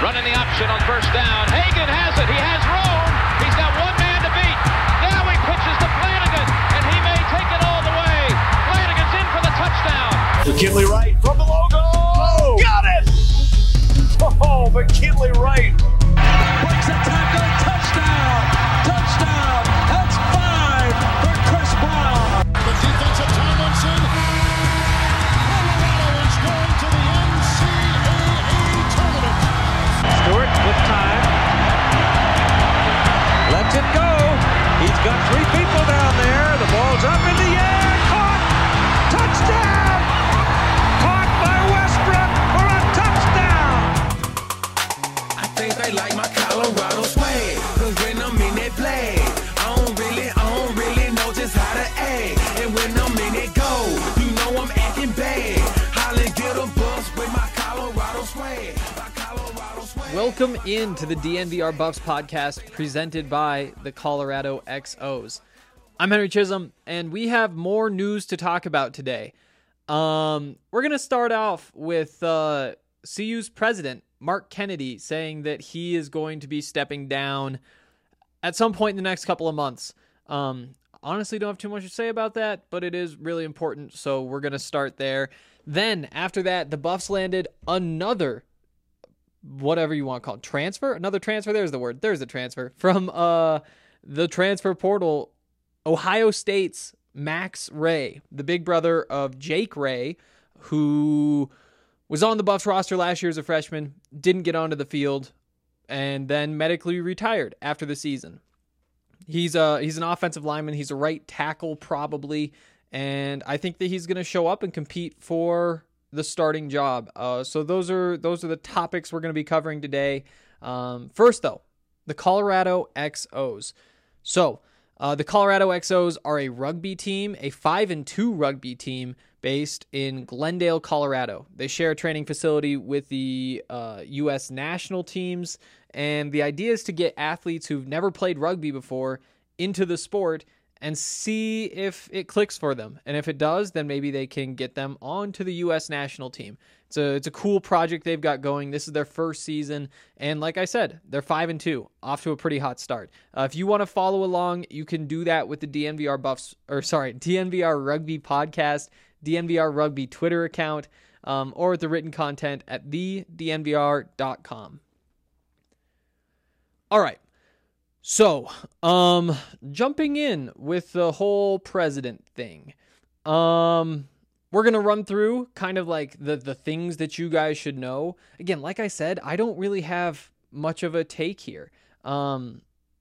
Running the option on first down. Hagan has it. He has room. He's got one man to beat. Now he pitches to Flanagan, and he may take it all the way. Flanagan's in for the touchdown. McKinley Wright from the logo. Oh, got it! Oh, McKinley Wright. Breaks a tackle. Touchdown. Touchdown. That's 5 for Chris Brown. The defense of Tomlinson. Colorado is going to the NCAA tournament. Stewart with time. Lets it go. He's got 3 people down there. The ball's up in the air. Caught. Touchdown. Caught by Westbrook for a touchdown. I think they like my Colorado swag. Cause when I'm in that flag, I don't really know just how to act. And when I'm in that goal, you know I'm acting bad. Holly get a bus with my Colorado swag. Welcome into the DNVR Buffs podcast presented by the Colorado XOs. I'm Henry Chisholm, and we have more news to talk about today. We're going to start off with CU's president, Mark Kennedy, saying that he is going to be stepping down at some point in the next couple of months. Honestly, don't have too much to say about that, but it is really important, so we're going to start there. Then, after that, the Buffs landed another, whatever you want to call it, transfer? Another transfer? There's the word. There's the transfer. From the transfer portal, Ohio State's Max Ray, the big brother of Jake Ray, who was on the Buffs roster last year as a freshman, didn't get onto the field, and then medically retired after the season. He's an offensive lineman. He's a right tackle probably, and I think that he's going to show up and compete for the starting job. So those are the topics we're going to be covering today. First, though, the Colorado XOs. So the Colorado XOs are a rugby team, a 5-2 rugby team based in Glendale, Colorado. They share a training facility with the U.S. national teams, and the idea is to get athletes who've never played rugby before into the sport and see if it clicks for them. And if it does, then maybe they can get them onto the U.S. national team. It's a cool project they've got going. This is their first season. And like I said, they're 5-2, off to a pretty hot start. If you want to follow along, you can do that with the DNVR Rugby podcast, DNVR Rugby Twitter account, or with the written content at thednvr.com. All right. So, jumping in with the whole president thing, we're going to run through kind of like the things that you guys should know. Again, like I said, I don't really have much of a take here. I've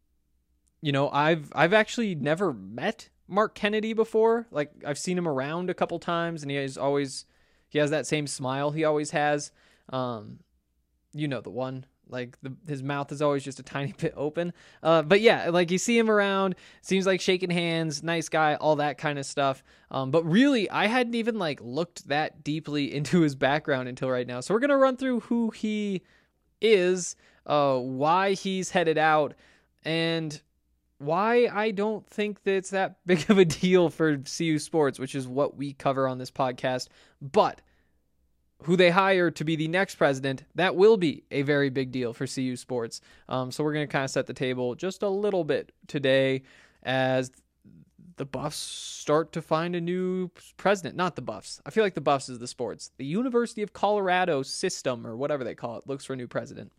actually never met Mark Kennedy before. Like, I've seen him around a couple times, and he has that same smile he always has. The one. Like, his mouth is always just a tiny bit open. But yeah, like, you see him around, seems like shaking hands, nice guy, all that kind of stuff. But really, I hadn't even, looked that deeply into his background until right now. So we're going to run through who he is, why he's headed out, and why I don't think that it's that big of a deal for CU Sports, which is what we cover on this podcast. But who they hire to be the next president, that will be a very big deal for CU Sports. So we're going to kind of set the table just a little bit today as the Buffs start to find a new president. Not the Buffs. I feel like the Buffs is the sports. The University of Colorado system, or whatever they call it, looks for a new president.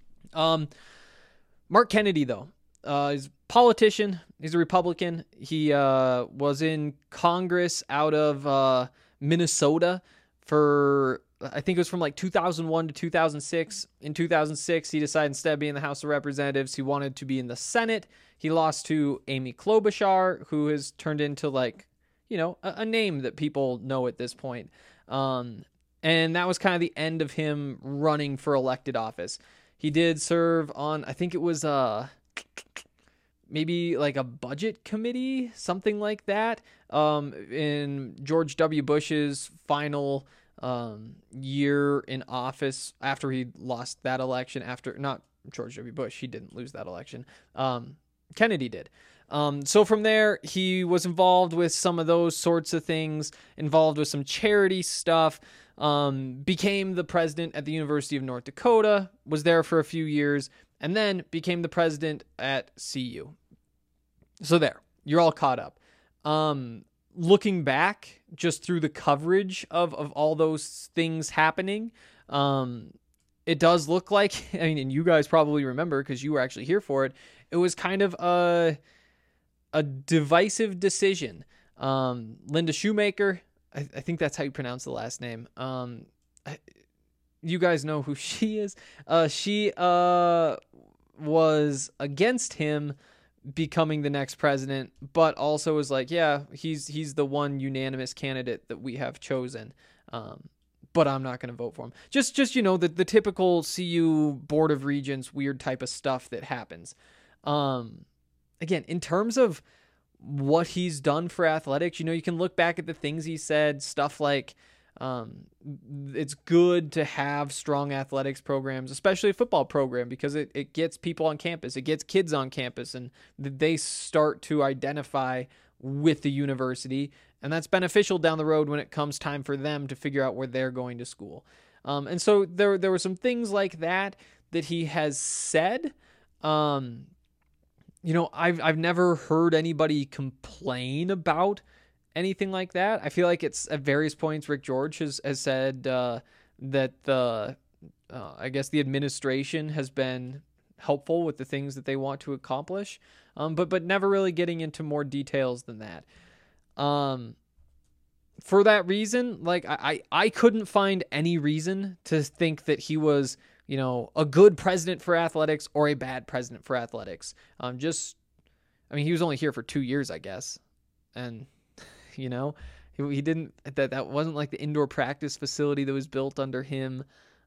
Mark Kennedy, though, is a politician. He's a Republican. He was in Congress out of Minnesota for, I think it was from 2001 to 2006. In 2006, he decided instead of being in the House of Representatives, he wanted to be in the Senate. He lost to Amy Klobuchar, who has turned into a name that people know at this point. And that was kind of the end of him running for elected office. He did serve on, I think it was maybe a budget committee, something like that, in George W. Bush's final year in office after he lost that election. Not George W. Bush, he didn't lose that election. Kennedy did. So from there, he was involved with some of those sorts of things, involved with some charity stuff, became the president at the University of North Dakota, was there for a few years, and then became the president at CU. So there, you're all caught up. Looking back, just through the coverage of all those things happening, it does look like, I mean, and you guys probably remember because you were actually here for it, it was kind of a divisive decision. Linda Shoemaker, I think that's how you pronounce the last name. You guys know who she is. She was against him becoming the next president, but also was like, yeah, he's the one unanimous candidate that we have chosen. But I'm not going to vote for him. Just the typical CU Board of Regents weird type of stuff that happens. Again, in terms of what he's done for athletics, you can look back at the things he said, stuff like it's good to have strong athletics programs, especially a football program, because it gets people on campus, it gets kids on campus, and they start to identify with the university, and that's beneficial down the road when it comes time for them to figure out where they're going to school. And so there were some things like that he has said. I've never heard anybody complain about anything like that. I feel like it's at various points Rick George has said that I guess the administration has been helpful with the things that they want to accomplish, but never really getting into more details than that. For that reason, like I couldn't find any reason to think that he was a good president for athletics or a bad president for athletics. He was only here for 2 years, I guess. And, he didn't, that wasn't like the indoor practice facility that was built under him.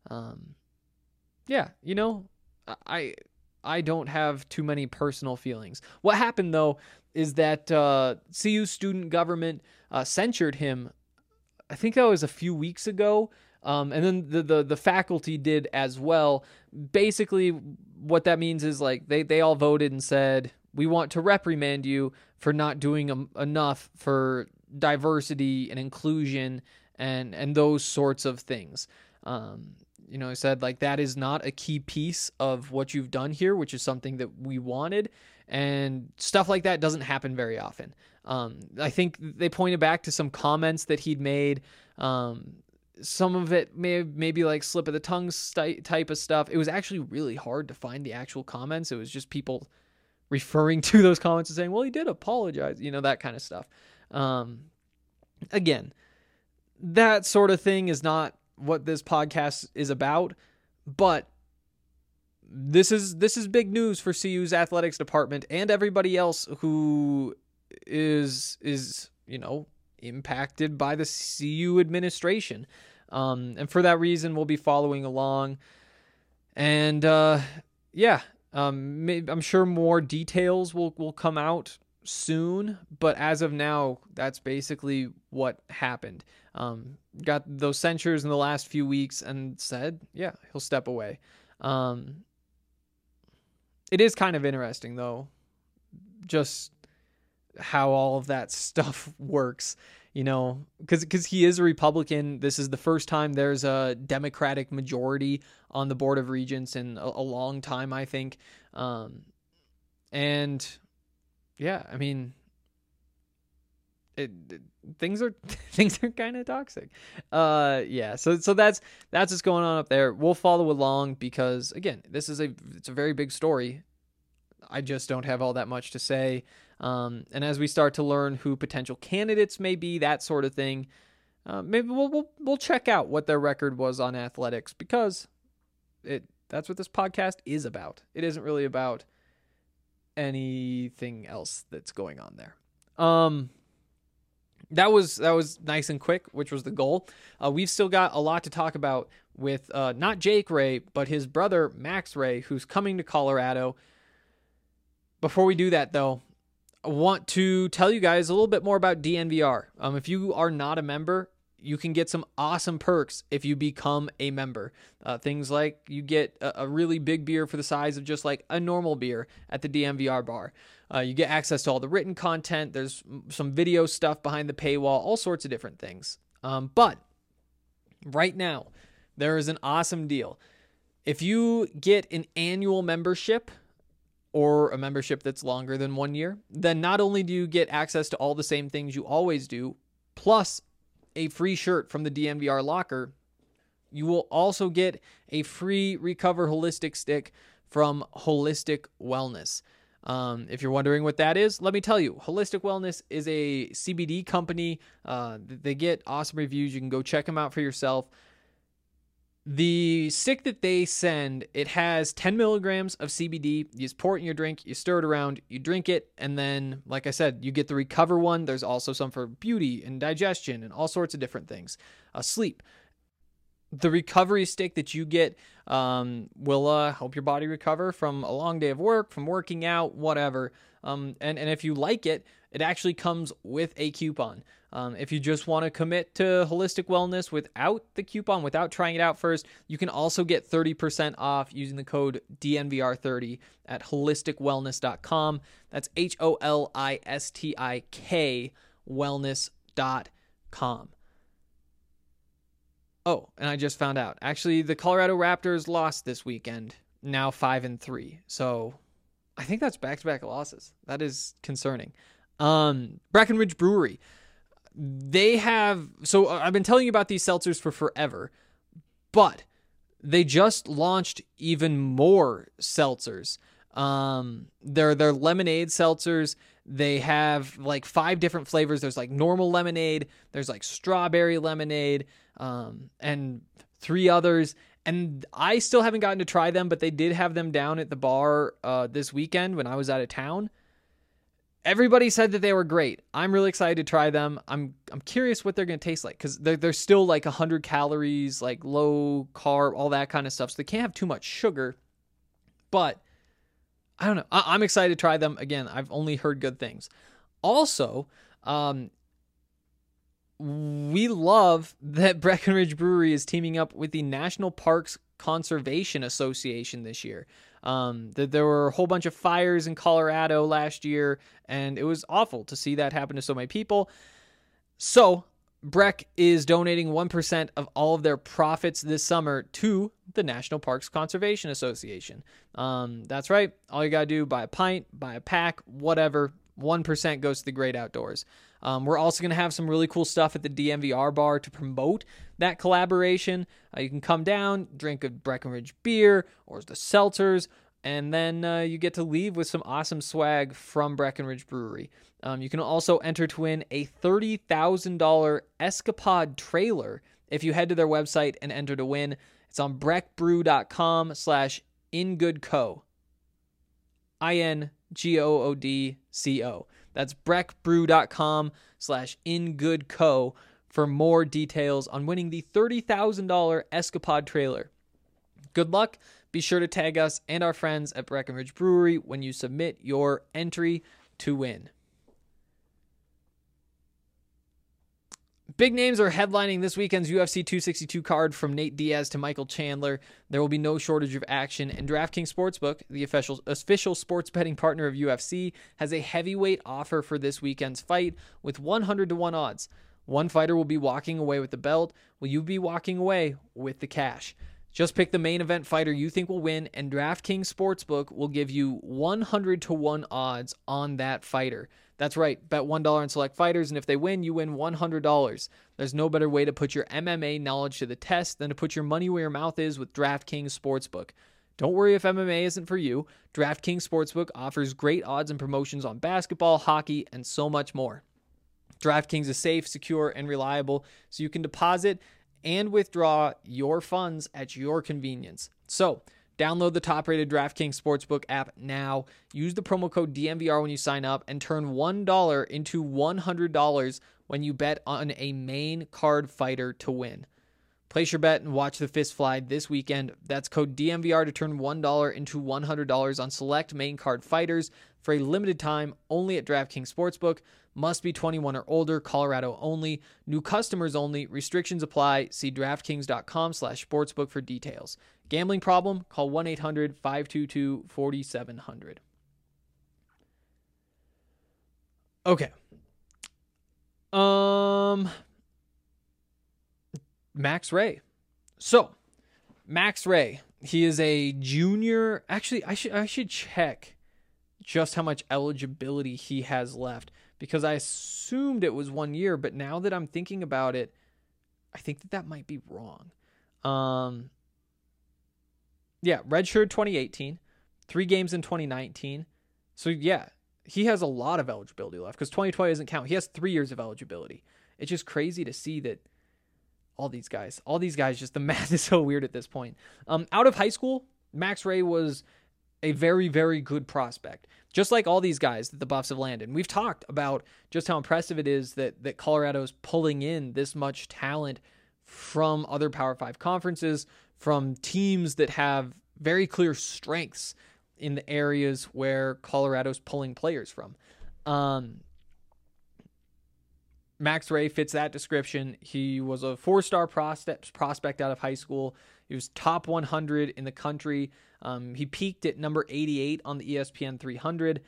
I don't have too many personal feelings. What happened, though, is that CU student government censured him. I think that was a few weeks ago. And then the faculty did as well. Basically, what that means is like they all voted and said, we want to reprimand you for not doing enough for diversity and inclusion and those sorts of things. He said like that is not a key piece of what you've done here, which is something that we wanted, and stuff like that doesn't happen very often. I think they pointed back to some comments that he'd made. Some of it may be like slip of the tongue type of stuff. It was actually really hard to find the actual comments. It was just people referring to those comments and saying, well, he did apologize, that kind of stuff. Again, that sort of thing is not what this podcast is about, but this is big news for CU's athletics department and everybody else who is impacted by the CU administration. And for that reason, we'll be following along. And I'm sure more details will come out soon, but as of now, that's basically what happened. Got those censures in the last few weeks and said, yeah, he'll step away. It is kind of interesting, though, just how all of that stuff works, because he is a Republican. This is the first time there's a Democratic majority on the Board of Regents in a long time, I think. And yeah, I mean, things are kind of toxic. So that's what's going on up there. We'll follow along because, again, it's a very big story. I just don't have all that much to say. And as we start to learn who potential candidates may be, that sort of thing, maybe we'll check out what their record was on athletics, because that's what this podcast is about. It isn't really about anything else that's going on there. That was nice and quick, which was the goal. We've still got a lot to talk about with not Jake Ray, but his brother Max Ray, who's coming to Colorado. Before we do that, though, I want to tell you guys a little bit more about DNVR. If you are not a member, you can get some awesome perks if you become a member. Things like you get a really big beer for the size of just like a normal beer at the DNVR bar. You get access to all the written content. There's some video stuff behind the paywall, all sorts of different things. But right now, there is an awesome deal. If you get an annual membership or a membership that's longer than 1 year, then not only do you get access to all the same things you always do, plus a free shirt from the DNVR locker, you will also get a free Recover Holistic stick from Holistic Wellness. If you're wondering what that is, let me tell you. Holistic Wellness is a CBD company. They get awesome reviews. You can go check them out for yourself. The stick that they send, it has 10 milligrams of CBD. You just pour it in your drink, you stir it around, you drink it, and then, like I said, you get the Recover one. There's also some for beauty and digestion and all sorts of different things. Sleep. The recovery stick that you get will help your body recover from a long day of work, from working out, whatever. And if you like it, it actually comes with a coupon. If you just want to commit to Holistic Wellness without the coupon, without trying it out first, you can also get 30% off using the code DNVR30 at holisticwellness.com. That's HOLISTIK wellness.com. Oh, and I just found out. Actually, the Colorado Raptors lost this weekend, now 5-3. So I think that's back-to-back losses. That is concerning. Breckenridge Brewery. They have, so I've been telling you about these seltzers for forever, but they just launched even more seltzers. They're lemonade seltzers. They have like 5 different flavors. There's like normal lemonade, there's like strawberry lemonade, and 3 others. And I still haven't gotten to try them, but they did have them down at the bar this weekend when I was out of town. Everybody said that they were great. I'm really excited to try them. I'm curious what they're going to taste like, because they're still like 100 calories, like low carb, all that kind of stuff. So they can't have too much sugar. But I don't know. I'm excited to try them. Again, I've only heard good things. Also, we love that Breckenridge Brewery is teaming up with the National Parks Conservation Association this year. There were a whole bunch of fires in Colorado last year, and it was awful to see that happen to so many people. So Breck is donating 1% of all of their profits this summer to the National Parks Conservation Association. That's right. All you got to do, buy a pint, buy a pack, whatever. 1% goes to the great outdoors. We're also going to have some really cool stuff at the DNVR bar to promote that collaboration. You can come down, drink a Breckenridge beer or the seltzers, and then you get to leave with some awesome swag from Breckenridge Brewery. You can also enter to win a $30,000 Escapade trailer if you head to their website and enter to win. It's on breckbrew.com/ingoodco. INGOODCO. That's breckbrew.com/ingoodco for more details on winning the $30,000 Escapade trailer. Good luck. Be sure to tag us and our friends at Breckenridge Brewery when you submit your entry to win. Big names are headlining this weekend's UFC 262 card, from Nate Diaz to Michael Chandler. There will be no shortage of action, and DraftKings Sportsbook, the official sports betting partner of UFC, has a heavyweight offer for this weekend's fight with 100-1 odds. One fighter will be walking away with the belt. Will you be walking away with the cash? Just pick the main event fighter you think will win, and DraftKings Sportsbook will give you 100-1 odds on that fighter. That's right, bet $1 on select fighters, and if they win, you win $100. There's no better way to put your MMA knowledge to the test than to put your money where your mouth is with DraftKings Sportsbook. Don't worry if MMA isn't for you. DraftKings Sportsbook offers great odds and promotions on basketball, hockey, and so much more. DraftKings is safe, secure, and reliable, so you can deposit and withdraw your funds at your convenience. So, download the top-rated DraftKings Sportsbook app now. Use the promo code DNVR when you sign up and turn $1 into $100 when you bet on a main card fighter to win. Place your bet and watch the fist fly this weekend. That's code DNVR to turn $1 into $100 on select main card fighters for a limited time only at DraftKings Sportsbook. Must be 21 or older, Colorado only. New customers only. Restrictions apply. See DraftKings.com/sportsbook for details. Gambling problem? Call 1-800-522-4700. Okay. Max Ray. So, Max Ray, he is a junior. Actually, I should check just how much eligibility he has left, because I assumed it was 1 year, but now that I'm thinking about it, I think that might be wrong. Yeah, redshirt 2018, 3 games in 2019. So yeah, he has a lot of eligibility left because 2020 doesn't count. He has 3 years of eligibility. It's just crazy to see that all these guys, just the math is so weird at this point. Out of high school, Max Ray was a very, very good prospect. Just like all these guys that the Buffs have landed. We've talked about just how impressive it is that Colorado's pulling in this much talent from other Power 5 conferences, from teams that have very clear strengths in the areas where Colorado's pulling players from. Max Ray fits that description. He was a 4-star prospect out of high school. He was top 100 in the country. He peaked at number 88 on the ESPN 300.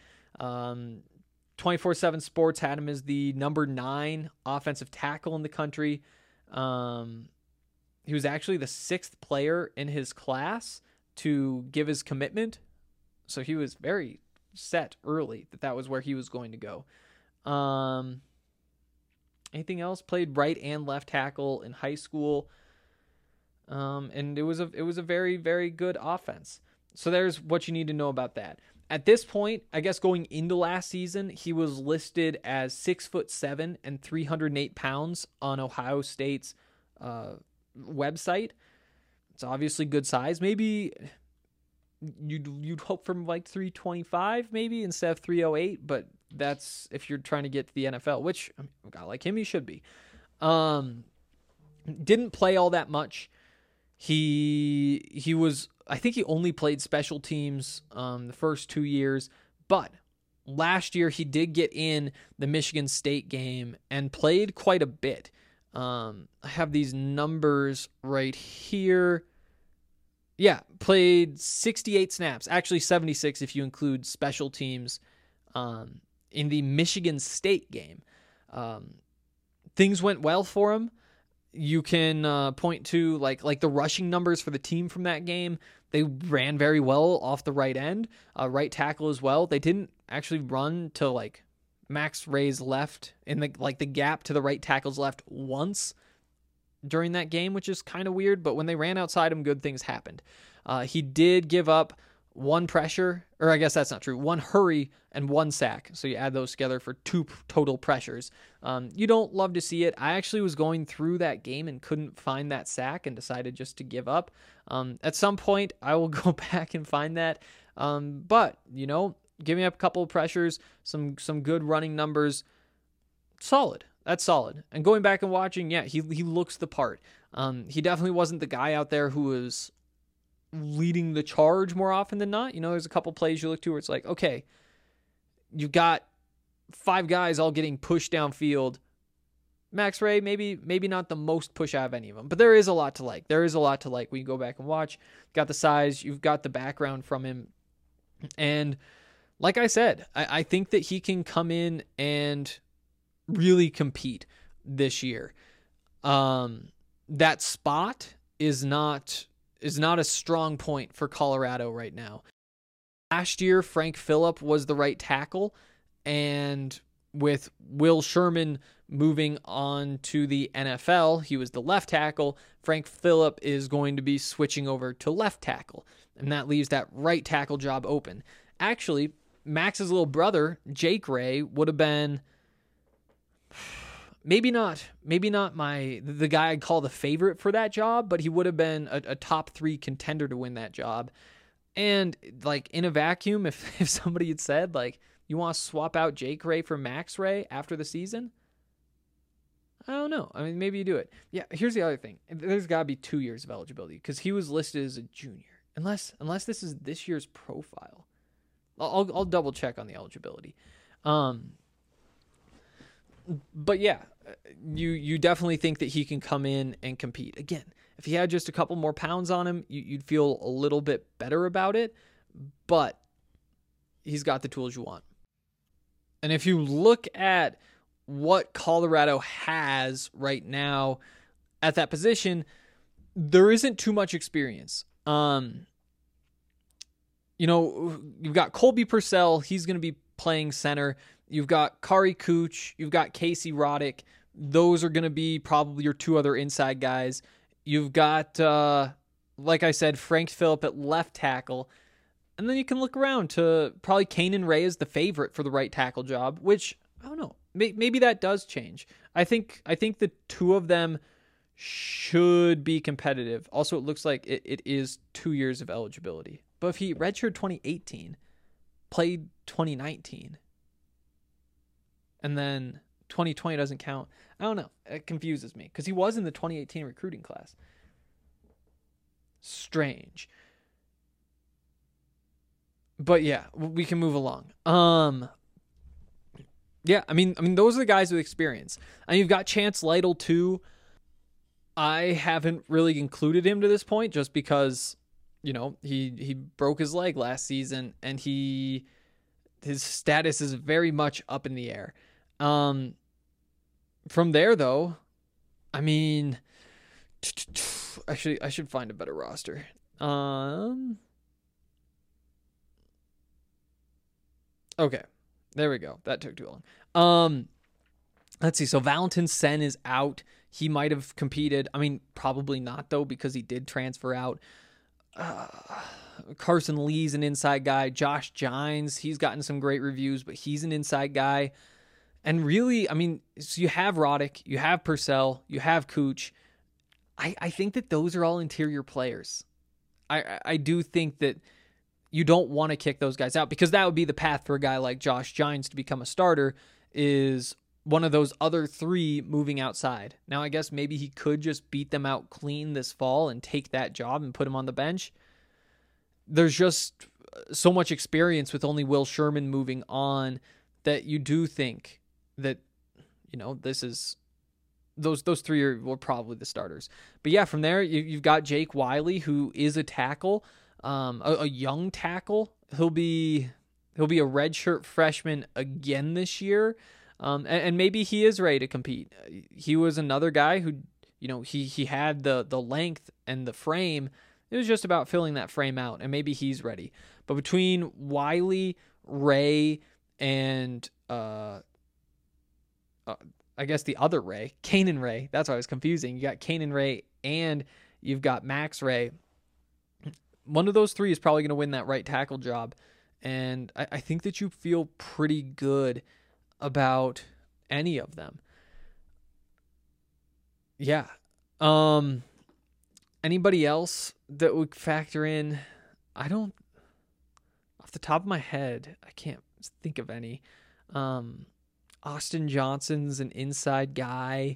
24/7 Sports had him as the number 9 offensive tackle in the country. He was actually the 6th player in his class to give his commitment. So he was very set early that was where he was going to go. Anything else? Played right and left tackle in high school. And it was a very, very good offense. So there's what you need to know about that. At this point, I guess going into last season, he was listed as 6'7" and 308 pounds on Ohio State's website. It's obviously good size. Maybe you'd hope from like 325 maybe instead of 308, but that's if you're trying to get to the NFL, which a guy like him, he should be. Didn't play all that much. He was, I think he only played special teams the first 2 years, but last year he did get in the Michigan State game and played quite a bit. I have these numbers right here. Yeah, played 68 snaps, actually 76 if you include special teams in the Michigan State game. Things went well for him. You can point to like the rushing numbers for the team from that game. They ran very well off the right end, right tackle as well. They didn't actually run to like Max Ray's left in the gap to the right tackle's left once during that game, which is kind of weird. But when they ran outside him, good things happened. He did give up 1 pressure, or I guess that's not true, 1 hurry and 1 sack. So you add those together for 2 total pressures. You don't love to see it. I actually was going through that game and couldn't find that sack and decided just to give up. At some point, I will go back and find that. But, giving up a couple of pressures, some good running numbers, solid. That's solid. And going back and watching, yeah, he looks the part. He definitely wasn't the guy out there who was leading the charge more often than not. There's a couple plays you look to where it's like, okay, you've got 5 guys all getting pushed downfield. Max Ray, maybe not the most push out of any of them, but there is a lot to like. There is a lot to like when you go back and watch. Got the size, you've got the background from him. And like I said, I think that he can come in and really compete this year. That spot is not a strong point for Colorado right now. Last year, Frank Phillip was the right tackle, and with Will Sherman moving on to the NFL, he was the left tackle. Frank Phillip is going to be switching over to left tackle, and that leaves that right tackle job open. Actually, Max's little brother, Jake Ray, would have been maybe not the guy I'd call the favorite for that job, but he would have been a top 3 contender to win that job. And like in a vacuum, if somebody had said like, you want to swap out Jake Ray for Max Ray after the season, I don't know. I mean, maybe you do it. Yeah, here's the other thing. There's got to be 2 years of eligibility because he was listed as a junior. Unless this is this year's profile. I'll double check on the eligibility. But yeah, you definitely think that he can come in and compete. Again, if he had just a couple more pounds on him, you'd feel a little bit better about it. But he's got the tools you want. And if you look at what Colorado has right now at that position, there isn't too much experience. You've got Colby Purcell. He's going to be playing center. You've got Kari Kuch. You've got Casey Roddick. Those are going to be probably your 2 other inside guys. You've got, like I said, Frank Phillip at left tackle. And then you can look around to probably Kanan Ray is the favorite for the right tackle job, which, I don't know, maybe that does change. I think the 2 of them should be competitive. Also, it looks like it is 2 years of eligibility. But if he redshirted 2018, played 2019, and then 2020 doesn't count, I don't know. It confuses me because he was in the 2018 recruiting class. Strange. But yeah, we can move along. Yeah, I mean, those are the guys with experience. And you've got Chance Lytle too. I haven't really included him to this point just because, he broke his leg last season and his status is very much up in the air. From there though, I mean, actually I should find a better roster. Okay, there we go. That took too long. Let's see. So Valentin Sen is out. He might have competed. I mean, probably not though, because he did transfer out. Carson Lee's an inside guy. Josh Gines, he's gotten some great reviews, but he's an inside guy. And really, I mean, so you have Roddick, you have Purcell, you have Kuch. I think that those are all interior players. I do think that you don't want to kick those guys out because that would be the path for a guy like Josh Gines to become a starter, is one of those other 3 moving outside. Now, I guess maybe he could just beat them out clean this fall and take that job and put him on the bench. There's just so much experience with only Will Sherman moving on that you do think that, this is those 3 were probably the starters. But yeah, from there, you've got Jake Wiley, who is a tackle. A young tackle. He'll be a redshirt freshman again this year, and maybe he is ready to compete. He was another guy who, he had the length and the frame. It was just about filling that frame out, and maybe he's ready. But between Wiley, Ray, and I guess the other Ray, Kanan Ray. That's why I was confusing. You got Kanan Ray and you've got Max Ray. One of those 3 is probably going to win that right tackle job. And I think that you feel pretty good about any of them. Yeah. Anybody else that would factor in? I don't, off the top of my head, I can't think of any. Austin Johnson's an inside guy.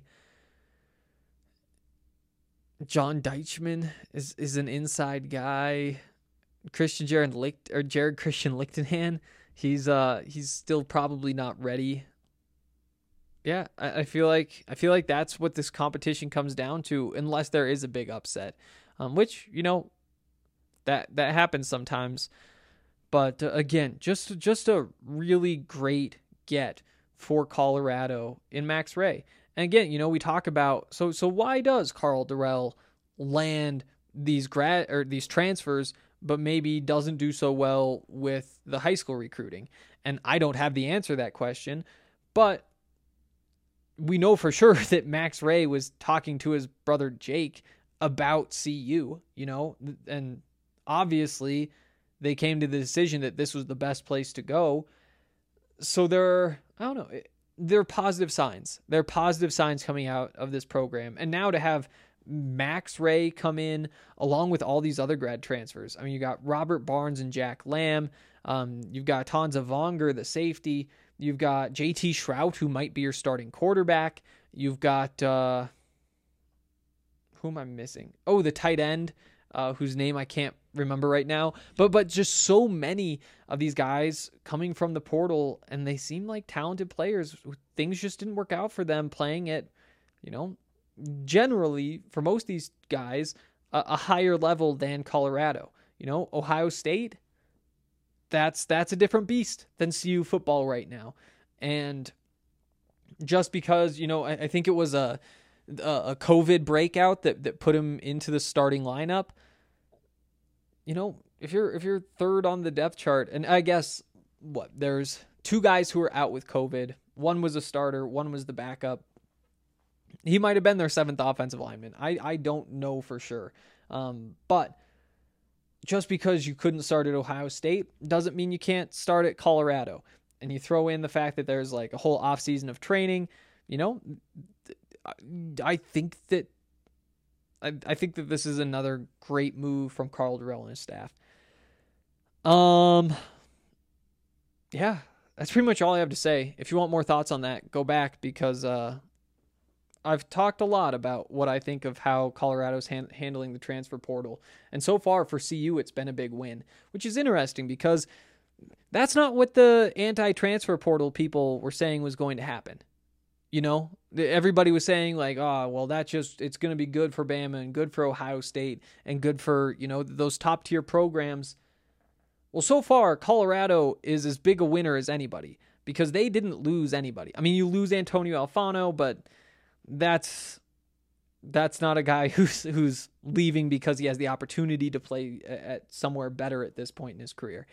John Deichmann is an inside guy. Jared Christian Lichtenhan, he's still probably not ready. Yeah, I feel like that's what this competition comes down to, unless there is a big upset, which that happens sometimes. But again, just a really great get for Colorado in Max Ray. And again, we talk about so why does Karl Dorrell land these transfers, but maybe doesn't do so well with the high school recruiting? And I don't have the answer to that question, but we know for sure that Max Ray was talking to his brother Jake about CU, and obviously they came to the decision that this was the best place to go. So there are positive signs. There are positive signs coming out of this program. And now to have Max Ray come in along with all these other grad transfers. I mean, you got Robert Barnes and Jack Lamb. You've got Tanza Vonger, the safety. You've got JT Shrout, who might be your starting quarterback. You've got who am I missing? Oh, the tight end, whose name I can't remember right now. But just so many of these guys coming from the portal, and they seem like talented players. Things just didn't work out for them playing at, generally for most of these guys, a higher level than Colorado. Ohio State, that's a different beast than CU football right now. And just because, I think it was a COVID breakout that put him into the starting lineup. If you're third on the depth chart, and I guess there's two guys who are out with COVID. One was a starter, one was the backup. He might have been their seventh offensive lineman. I don't know for sure. But just because you couldn't start at Ohio State doesn't mean you can't start at Colorado. And you throw in the fact that there's like a whole offseason of training, I think that this is another great move from Karl Dorrell and his staff. Yeah, that's pretty much all I have to say. If you want more thoughts on that, go back, because I've talked a lot about what I think of how Colorado's handling the transfer portal. And so far for CU, it's been a big win, which is interesting because that's not what the anti-transfer portal people were saying was going to happen. Everybody was saying like, oh, well, it's going to be good for Bama and good for Ohio State and good for, those top tier programs. Well, so far, Colorado is as big a winner as anybody because they didn't lose anybody. I mean, you lose Antonio Alfano, but that's not a guy who's leaving because he has the opportunity to play at somewhere better at this point in his career.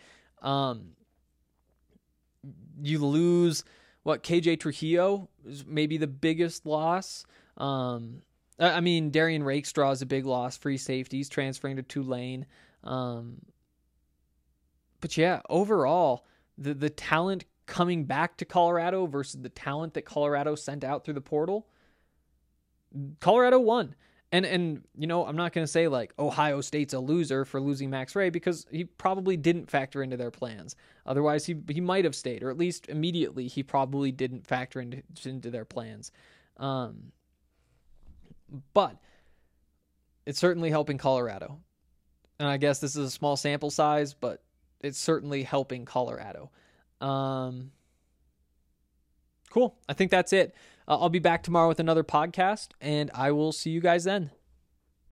You lose KJ Trujillo is maybe the biggest loss. Darian Rakestraw is a big loss. Free safeties transferring to Tulane. But yeah, overall, the talent coming back to Colorado versus the talent that Colorado sent out through the portal, Colorado won. And I'm not going to say like Ohio State's a loser for losing Max Ray, because he probably didn't factor into their plans. Otherwise, he might have stayed, or at least immediately he probably didn't factor into their plans. But it's certainly helping Colorado. And I guess this is a small sample size, but it's certainly helping Colorado. Cool. I think that's it. I'll be back tomorrow with another podcast, and I will see you guys then.